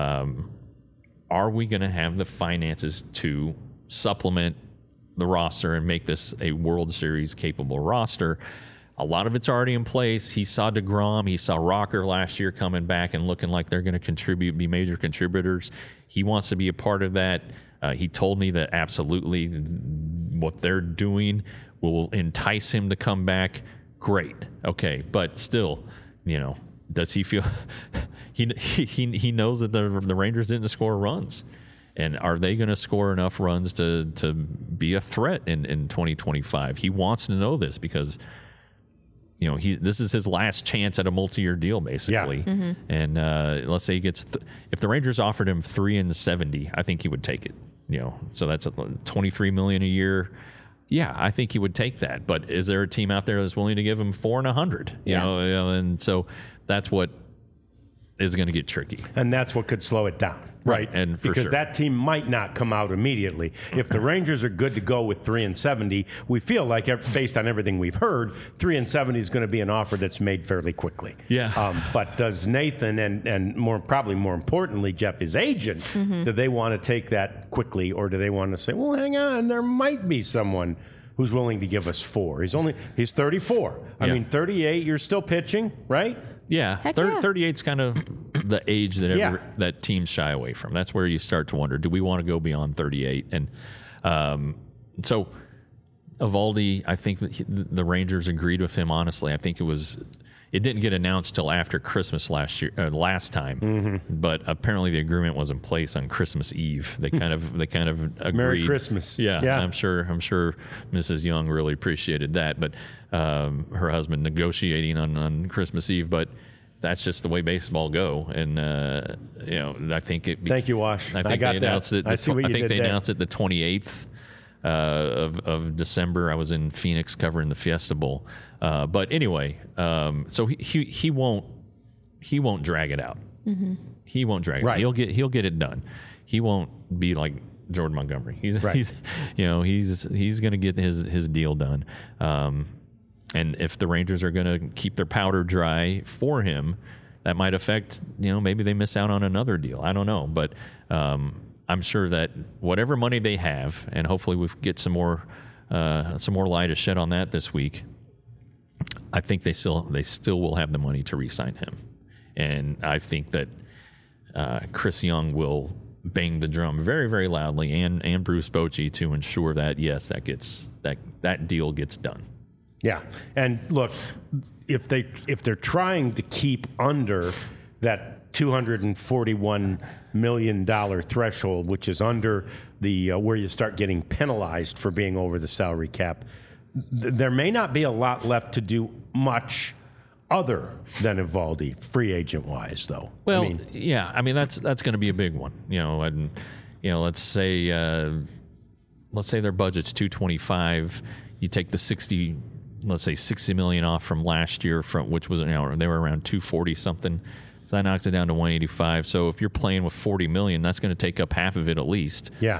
Are we going to have the finances to supplement the roster and make this a World Series capable roster? A lot of it's already in place. He saw DeGrom. He saw Rocker last year coming back and looking like they're going to be major contributors. He wants to be a part of that. He told me that absolutely what they're doing will entice him to come back. Great. Okay. But still, does he feel he knows that the Rangers didn't score runs, and are they going to score enough runs to be a threat in 2025? He wants to know this because this is his last chance at a multi-year deal, basically. Yeah. Mm-hmm. And let's say he gets if the Rangers offered him $3 and $70, I think he would take it. So that's $23 million a year. Yeah, I think he would take that. But is there a team out there that's willing to give him $4 and $100? And so that's what is going to get tricky. And that's what could slow it down. Right. And for because sure, that team might not come out immediately. If the Rangers are good to go with $3 and $70, we feel like, based on everything we've heard, $3 and $70 is going to be an offer that's made fairly quickly. Yeah. But does Nathan and probably more importantly, Jeff, his agent, do they want to take that quickly, or do they want to say, well, hang on, there might be someone who's willing to give us $4? He's 34. I mean, 38, you're still pitching, right? Yeah, 38's kind of the age that that teams shy away from. That's where you start to wonder, do we want to go beyond 38? And so Eovaldi, I think that the Rangers agreed with him, honestly. I think it didn't get announced till after Christmas last time, but apparently the agreement was in place on Christmas Eve. They kind of agreed. Merry Christmas. Yeah. I'm sure Mrs. Young really appreciated that, but her husband negotiating on Christmas Eve. But that's just the way baseball go, and I think it. Thank you, Wash. I think they announced it. I see what you did there. Announced it the 28th. Of December. I was in Phoenix covering the Fiesta Bowl. But anyway, so he won't drag it out. Mm-hmm. He won't drag it out. He'll get it done. He won't be like Jordan Montgomery. He's going to get his deal done. And if the Rangers are going to keep their powder dry for him, that might affect, maybe they miss out on another deal. I don't know, but I'm sure that whatever money they have, and hopefully we get some more light to shed on that this week, I think they still will have the money to re-sign him. And I think that Chris Young will bang the drum very, very loudly, and Bruce Bochy, to ensure that, yes, that deal gets done. Yeah. And look, if they're trying to keep under that $241 million threshold, which is under the where you start getting penalized for being over the salary cap, there may not be a lot left to do much other than Eovaldi, free agent wise, though. Well, that's going to be a big one, and let's say their budget's $225. You take the $60 million off from last year, which was they were around $240 something. So that knocks it down to $185. So if you're playing with $40 million, that's going to take up half of it at least. Yeah.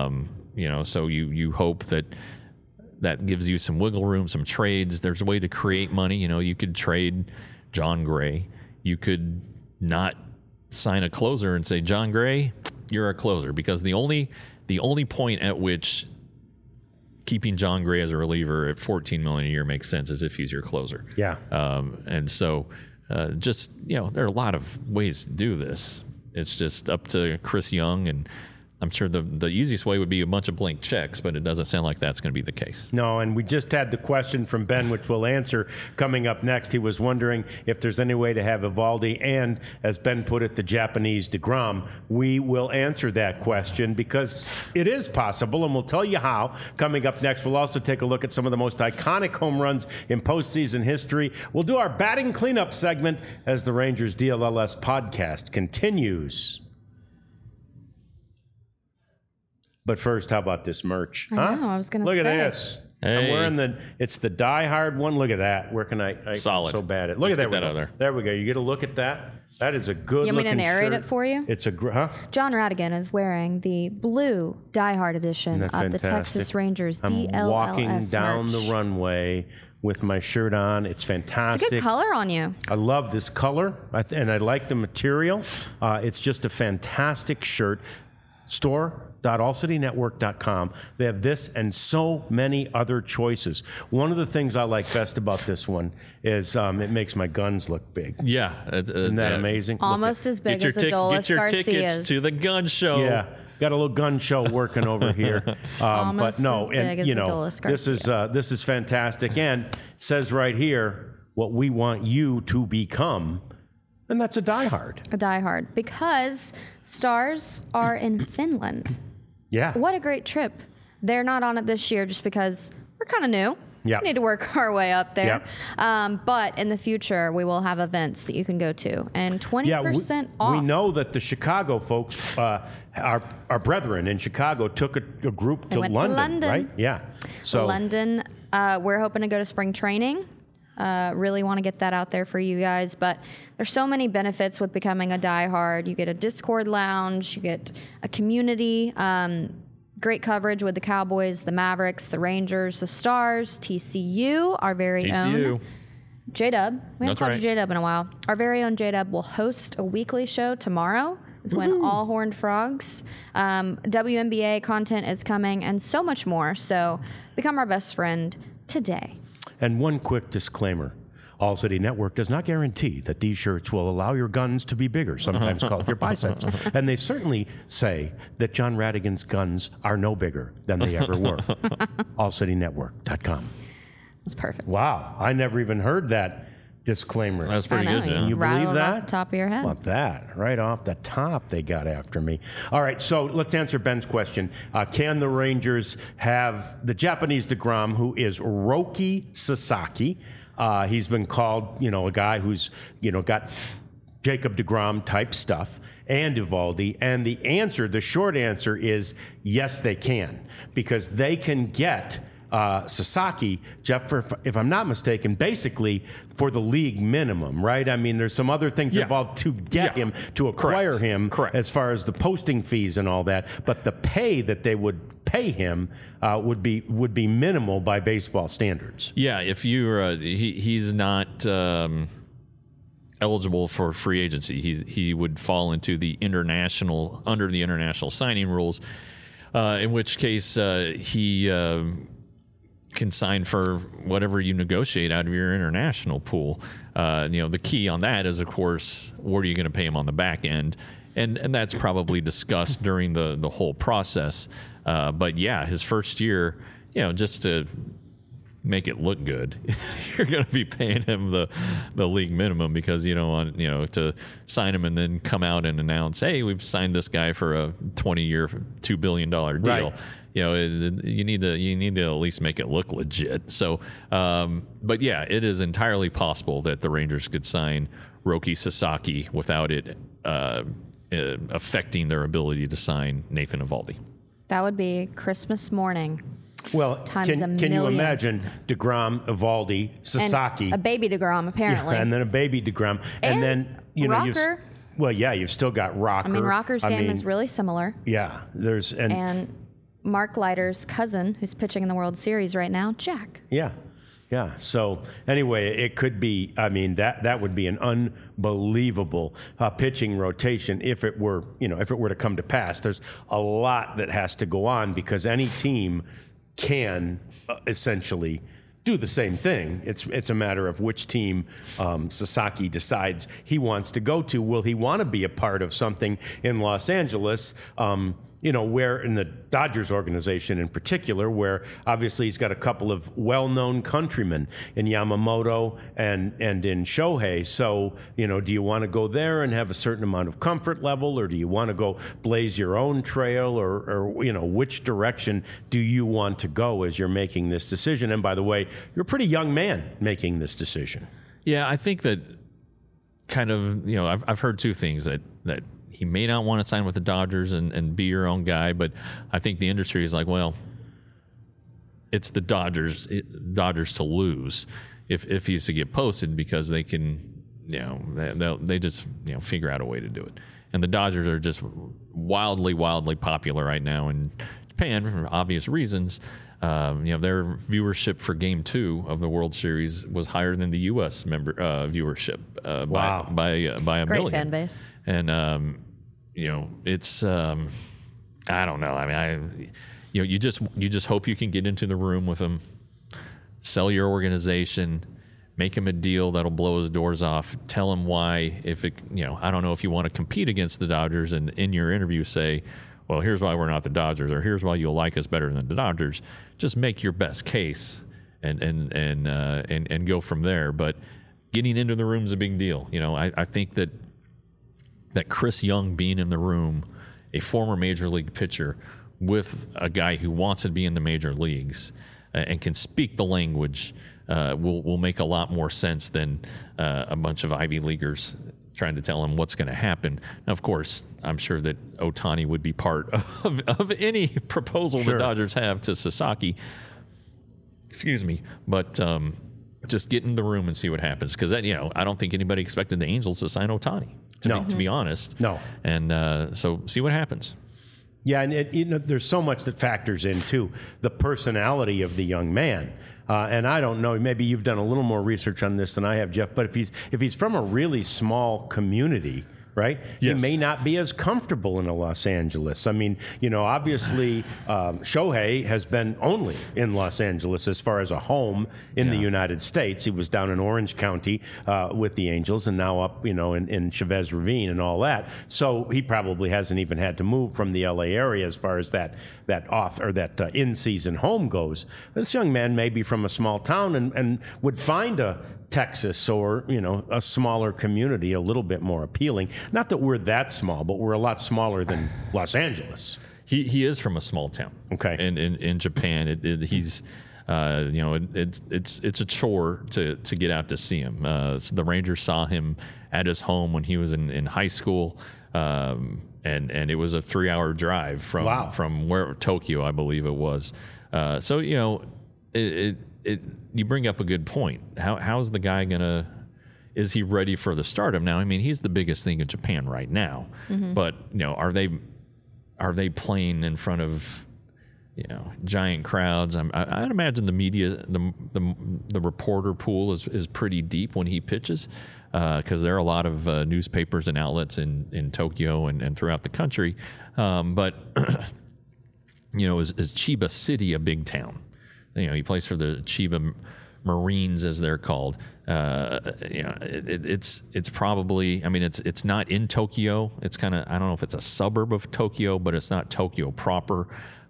So you hope that gives you some wiggle room, some trades. There's a way to create money. You could trade John Gray. You could not sign a closer and say, John Gray, you're a closer, because the only point at which keeping John Gray as a reliever at $14 million a year makes sense is if he's your closer. Yeah. And so. There are a lot of ways to do this. It's just up to Chris Young, and I'm sure the easiest way would be a bunch of blank checks, but it doesn't sound like that's going to be the case. No, and we just had the question from Ben, which we'll answer coming up next. He was wondering if there's any way to have Eovaldi and, as Ben put it, the Japanese DeGrom. We will answer that question because it is possible, and we'll tell you how coming up next. We'll also take a look at some of the most iconic home runs in postseason history. We'll do our batting cleanup segment as the Rangers DLLS podcast continues. But first, how about this merch? I know, I was going to say. Look at this. Hey. I'm wearing it's the Die Hard one. Look at that. Where can I Solid. So bad at. Look at that. Get that out there. There we go. You get a look at that. That is a good looking shirt. You want me to narrate it for you? It's John Radigan is wearing the blue Die Hard edition of the Texas Rangers DLLS I'm walking down merch. the runway with my shirt on. It's fantastic. It's a good color on you. I love this color, and I like the material. It's just a fantastic shirt. Store.allcitynetwork.com. They have this and so many other choices. One of the things I like best about this one is it makes my guns look big. Yeah. Isn't that amazing? Almost as big as the Adolis Get your Garcias. tickets to the gun show. Yeah. got a little gun show working over here. Almost but no, as big as the Dulles this is fantastic. And it says right here what we want you to become, and that's a diehard. A diehard, because Stars are in Finland. Yeah. What a great trip. They're not on it this year just because we're kind of new. Yep. We need to work our way up there. Yep. But in the future, we will have events that you can go to, and 20% off. We know that the Chicago folks, our brethren in Chicago, took a group to London, right? Yeah. So London, we're hoping to go to spring training. Really want to get that out there for you guys. But there's so many benefits with becoming a diehard. You get a Discord lounge, you get a community, great coverage with the Cowboys, the Mavericks, the Rangers, the Stars, TCU, our very own J-Dub. We haven't talked to J-Dub in a while. Our very own J-Dub will host a weekly show tomorrow. Is when All Horned Frogs. WNBA content is coming and so much more. So become our best friend today. And one quick disclaimer. All City Network does not guarantee that these shirts will allow your guns to be bigger, sometimes called your biceps. And they certainly say that John Radigan's guns are no bigger than they ever were. AllCityNetwork.com. That's perfect. Wow. I never even heard that disclaimer. That's pretty good, John. You believe that? Off the top of your head. How about that? Right off the top, they got after me. All right, so let's answer Ben's question. Can the Rangers have the Japanese DeGrom, who is Roki Sasaki? He's been called, a guy who's, got Jacob DeGrom type stuff, and Eovaldi. And the short answer is yes, they can, because they can get Sasaki, Jeff, if I'm not mistaken, basically for the league minimum, right? I mean, there's some other things involved to get him, to acquire him, as far as the posting fees and all that. But the pay that they would pay him would be minimal by baseball standards. Yeah, if you're he's not eligible for free agency. He would fall into under the international signing rules, in which case he can sign for whatever you negotiate out of your international pool. The key on that is, of course, what are you going to pay him on the back end? And that's probably discussed during the whole process. But yeah, his first year, just to make it look good, you're going to be paying him the league minimum, because you don't want to sign him and then come out and announce, hey, we've signed this guy for a 20-year, $2 billion deal. Right. You need to at least make it look legit. So, but yeah, it is entirely possible that the Rangers could sign Roki Sasaki without it affecting their ability to sign Nathan Eovaldi. That would be Christmas morning. Well, can you imagine DeGrom, Eovaldi, Sasaki, and a baby DeGrom apparently, and then a baby DeGrom, and then Rocker. You've still got Rocker. I mean, Rocker's game is really similar. Yeah, and Mark Leiter's cousin, who's pitching in the World Series right now, Jack. Yeah. So anyway, it could be. I mean, that would be an unbelievable pitching rotation if it were to come to pass. There's a lot that has to go on, because any team can essentially do the same thing. It's a matter of which team Sasaki decides he wants to go to. Will he want to be a part of something in Los Angeles? Where in the Dodgers organization in particular, where obviously he's got a couple of well-known countrymen in Yamamoto and in Shohei. So, do you want to go there and have a certain amount of comfort level, or do you want to go blaze your own trail, or which direction do you want to go as you're making this decision? And by the way, you're a pretty young man making this decision. Yeah, I think that kind of, I've heard two things that he may not want to sign with the Dodgers and be your own guy, but I think the industry is like, well, it's the Dodgers to lose if he's to get posted, because they can, they just figure out a way to do it. And the Dodgers are just wildly popular right now in Japan for obvious reasons. Their viewership for Game 2 of the World Series was higher than the U.S. viewership by a Great million. Fan base. And it's I don't know. I mean, you just hope you can get into the room with him, sell your organization, make him a deal that'll blow his doors off. Tell him why. If it, I don't know if you want to compete against the Dodgers, and in your interview say, well, here's why we're not the Dodgers, or here's why you'll like us better than the Dodgers. Just make your best case and go from there. But getting into the room is a big deal. I think that Chris Young being in the room, a former major league pitcher with a guy who wants to be in the major leagues and can speak the language, will make a lot more sense than a bunch of Ivy Leaguers trying to tell him what's going to happen. Now, of course, I'm sure that Ohtani would be part of any proposal the Dodgers have to Sasaki. Excuse me. But just get in the room and see what happens. Because, I don't think anybody expected the Angels to sign Ohtani, to be honest. No. And so see what happens. Yeah, and there's so much that factors into the personality of the young man. And I don't know, maybe you've done a little more research on this than I have, Jeff, but if he's from a really small community, right? Yes. He may not be as comfortable in Los Angeles. I mean, obviously Shohei has been only in Los Angeles as far as a home in the United States. He was down in Orange County with the Angels and now up, in Chavez Ravine and all that. So he probably hasn't even had to move from the LA area as far as that in-season home goes. This young man may be from a small town and would find a Texas or, a smaller community a little bit more appealing. Not that we're that small, but we're a lot smaller than Los Angeles. He is from a small town. Okay. And in Japan, he's, it's a chore to get out to see him. So the Rangers saw him at his home when he was in high school. And it was a 3-hour drive from Tokyo, I believe it was. So, you bring up a good point. How's the guy is he ready for the stardom? Now, I mean, he's the biggest thing in Japan right now, but are they playing in front of giant crowds? I'd imagine the media, the reporter pool is pretty deep when he pitches, because there are a lot of newspapers and outlets in Tokyo and throughout the country. But is Chiba City a big town? He plays for the Chiba Marines, as they're called. It's probably, I mean, it's not in Tokyo. It's kind of, I don't know if it's a suburb of Tokyo, but it's not Tokyo proper.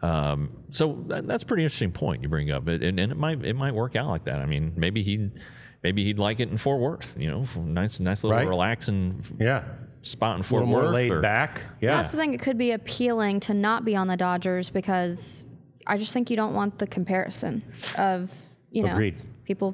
So that's a pretty interesting point you bring up. And it might work out like that. I mean, maybe he'd like it in Fort Worth. Nice little relaxing spot in Fort Worth. A little more laid back. Yeah. I also think it could be appealing to not be on the Dodgers because I just think you don't want the comparison of, Agreed. People.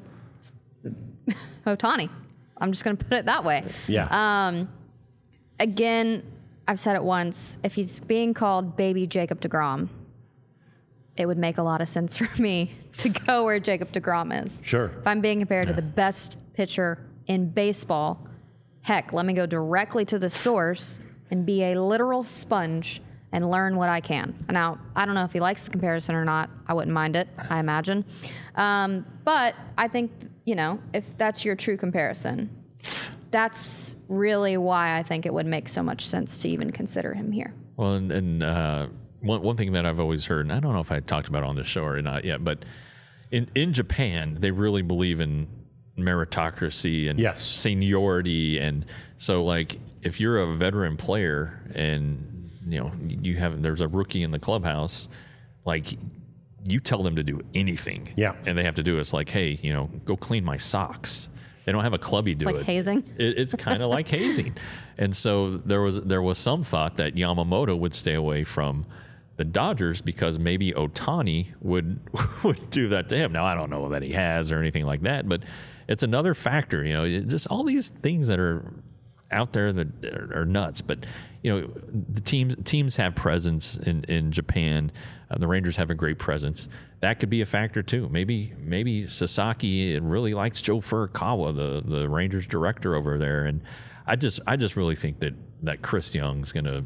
Ohtani. I'm just going to put it that way. Yeah. Again, I've said it once. If he's being called baby Jacob deGrom, it would make a lot of sense for me to go where Jacob deGrom is. Sure. If I'm being compared to the best pitcher in baseball, heck, let me go directly to the source and be a literal sponge and learn what I can. Now, I don't know if he likes the comparison or not. I wouldn't mind it, I imagine. But I think, if that's your true comparison, that's really why I think it would make so much sense to even consider him here. Well, and one thing that I've always heard, and I don't know if I talked about it on the show or not yet, but in Japan, they really believe in meritocracy and seniority. And so, like, if you're a veteran player and there's a rookie in the clubhouse, like, you tell them to do anything. Yeah. And they have to do it. It's like, hey, go clean my socks. They don't have a clubby do it. It's like hazing. It's kind of like hazing. And so there was some thought that Yamamoto would stay away from the Dodgers because maybe Ohtani would do that to him. Now, I don't know that he has or anything like that, but it's another factor, just all these things that are out there that are nuts. But the teams have presence in Japan. The Rangers have a great presence. That could be a factor too. Maybe Sasaki really likes Joe Furukawa, the Rangers director over there. And I just really think that Chris Young's gonna,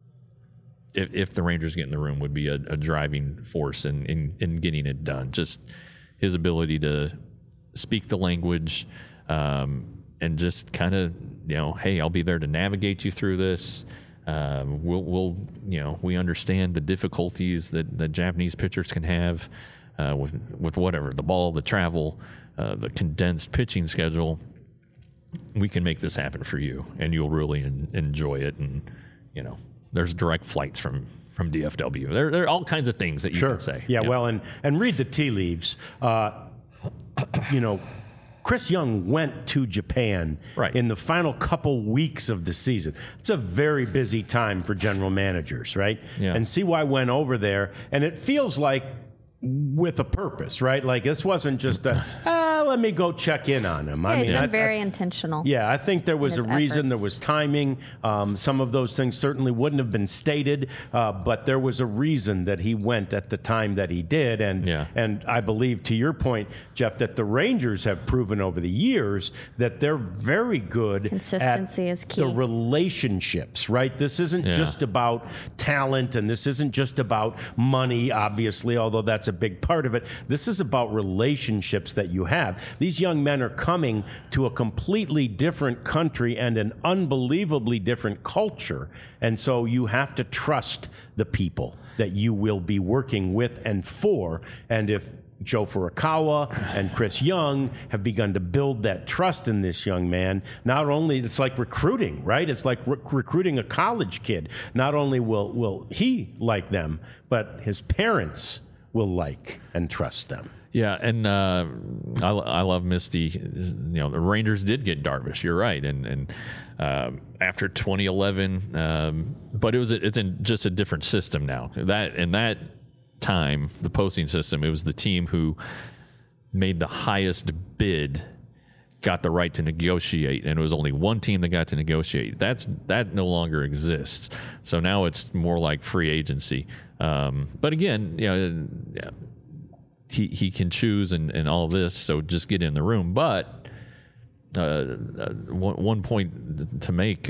if the Rangers get in the room, would be a driving force in getting it done. Just his ability to speak the language, and just kind of, hey, I'll be there to navigate you through this. We understand the difficulties that Japanese pitchers can have with whatever, the ball, the travel, the condensed pitching schedule. We can make this happen for you, and you'll really enjoy it. And there's direct flights from DFW. There are all kinds of things that you can say. Yeah, well, and read the tea leaves. Chris Young went to Japan in the final couple weeks of the season. It's a very busy time for general managers, right? Yeah. And CY went over there, and it feels like with a purpose, right? Like this wasn't just let me go check in on him. Yeah, he's been very intentional. Yeah, I think there was a reason. There was timing. Some of those things certainly wouldn't have been stated, but there was a reason that he went at the time that he did. And I believe, to your point, Jeff, that the Rangers have proven over the years that they're very good. Consistency at is key. The relationships, right? This isn't just about talent, and this isn't just about money, obviously, although that's a big part of it. This is about relationships that you have. These young men are coming to a completely different country and an unbelievably different culture. And so you have to trust the people that you will be working with and for. And if Joe Furukawa and Chris Young have begun to build that trust in this young man, not only, it's like recruiting, right? It's like recruiting a college kid. Not only will he like them, but his parents will like and trust them. Yeah, and I love Misty. The Rangers did get Darvish. You're right, and after 2011, but it's in just a different system now. That time, the posting system, it was the team who made the highest bid got the right to negotiate, and it was only one team that got to negotiate. That no longer exists. So now it's more like free agency. But again, he can choose and all this, so just get in the room. But one point to make,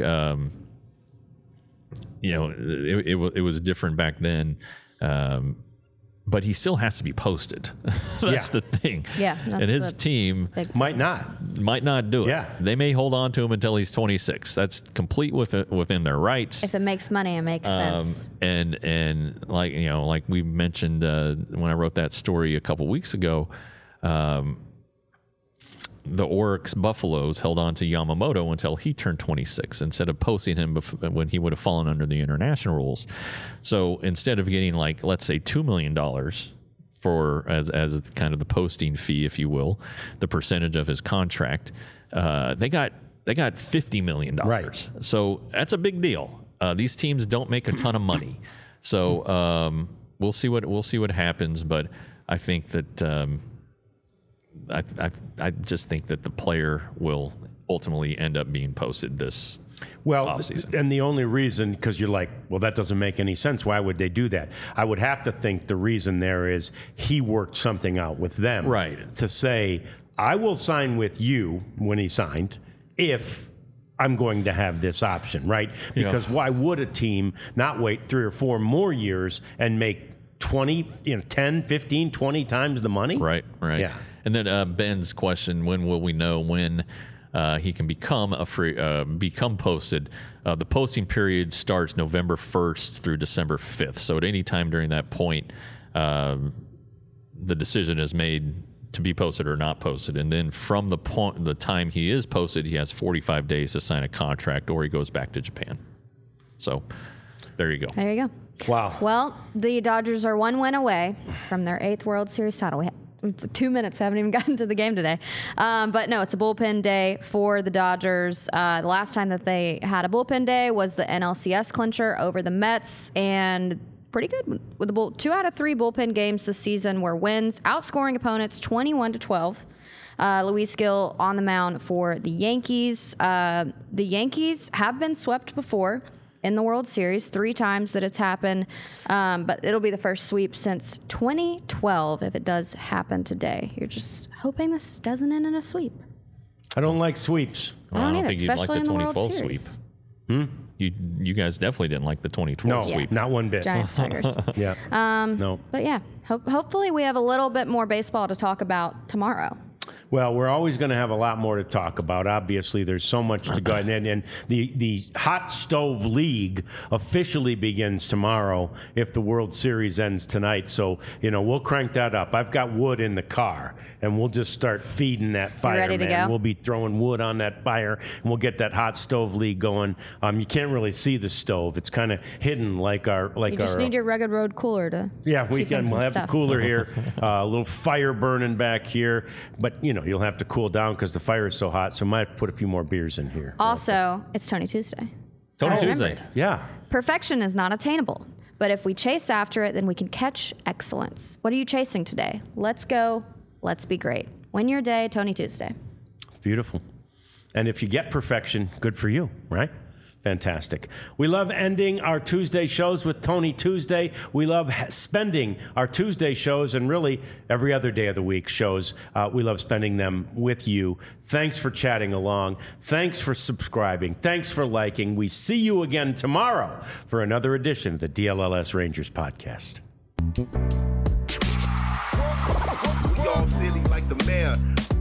it was different back then. But he still has to be posted. That's the thing. Yeah. And his team might not do it. Yeah. They may hold on to him until he's 26. That's complete within their rights. If it makes money, it makes sense. And like we mentioned when I wrote that story a couple weeks ago, the Oryx Buffaloes held on to Yamamoto until he turned 26 instead of posting him when he would have fallen under the international rules. So instead of getting, like, let's say $2 million for as kind of the posting fee, if you will, the percentage of his contract, they got $50 million. Right. So that's a big deal. These teams don't make a ton of money. So we'll see what happens, but I think that I just think that the player will ultimately end up being posted this offseason. And the only reason, because you're like, well, that doesn't make any sense. Why would they do that? I would have to think the reason there is he worked something out with them. Right. To say, I will sign with you when he signed if I'm going to have this option, right? Because why would a team not wait 3 or 4 more years and make 20, 10, 15, 20 times the money? Right. Yeah. And then Ben's question: when will we know when he can become become posted? The posting period starts November 1st through December 5th. So at any time during that point, the decision is made to be posted or not posted. And then from the time he is posted, he has 45 days to sign a contract, or he goes back to Japan. So there you go. There you go. Wow. Well, the Dodgers are 1 win away from their 8th World Series title. It's 2 minutes. I haven't even gotten to the game today. But no, it's a bullpen day for the Dodgers. The last time that they had a bullpen day was the NLCS clincher over the Mets, and pretty good with the 2 out of 3 bullpen games this season were wins, outscoring opponents 21-12. Luis Gil on the mound for the Yankees. The Yankees have been swept before in the World Series, 3 times that it's happened, but it'll be the first sweep since 2012 if it does happen today. You're just hoping this doesn't end in a sweep. I don't like sweeps. I don't either, think you'd like especially the in the World 2012 Series. sweep. You guys definitely didn't like the 2012 No, sweep. not one bit. Giants, Tigers. Yeah. No. But yeah, hopefully we have a little bit more baseball to talk about tomorrow. Well, we're always going to have a lot more to talk about. Obviously, there's so much to go. And the Hot Stove League officially begins tomorrow if the World Series ends tonight. So, we'll crank that up. I've got wood in the car, and we'll just start feeding that fire. You ready to go? We'll be throwing wood on that fire, and we'll get that Hot Stove League going. You can't really see the stove. It's kind of hidden like our... You just need your Rugged Road cooler to We'll have the cooler here, a little fire burning back here. But, you'll have to cool down because the fire is so hot, so I might have to put a few more beers in here. Also, it's Tony Tuesday. Tony Tuesday. Yeah. Perfection is not attainable, but if we chase after it, then we can catch excellence. What are you chasing today? Let's go. Let's be great. Win your day, Tony Tuesday. Beautiful. And if you get perfection, good for you, right? Fantastic. We love ending our Tuesday shows with Tony Tuesday. We love spending our Tuesday shows and really every other day of the week shows. We love spending them with you. Thanks for chatting along. Thanks for subscribing. Thanks for liking. We see you again tomorrow for another edition of the DLLS Rangers podcast. We all silly like the mayor.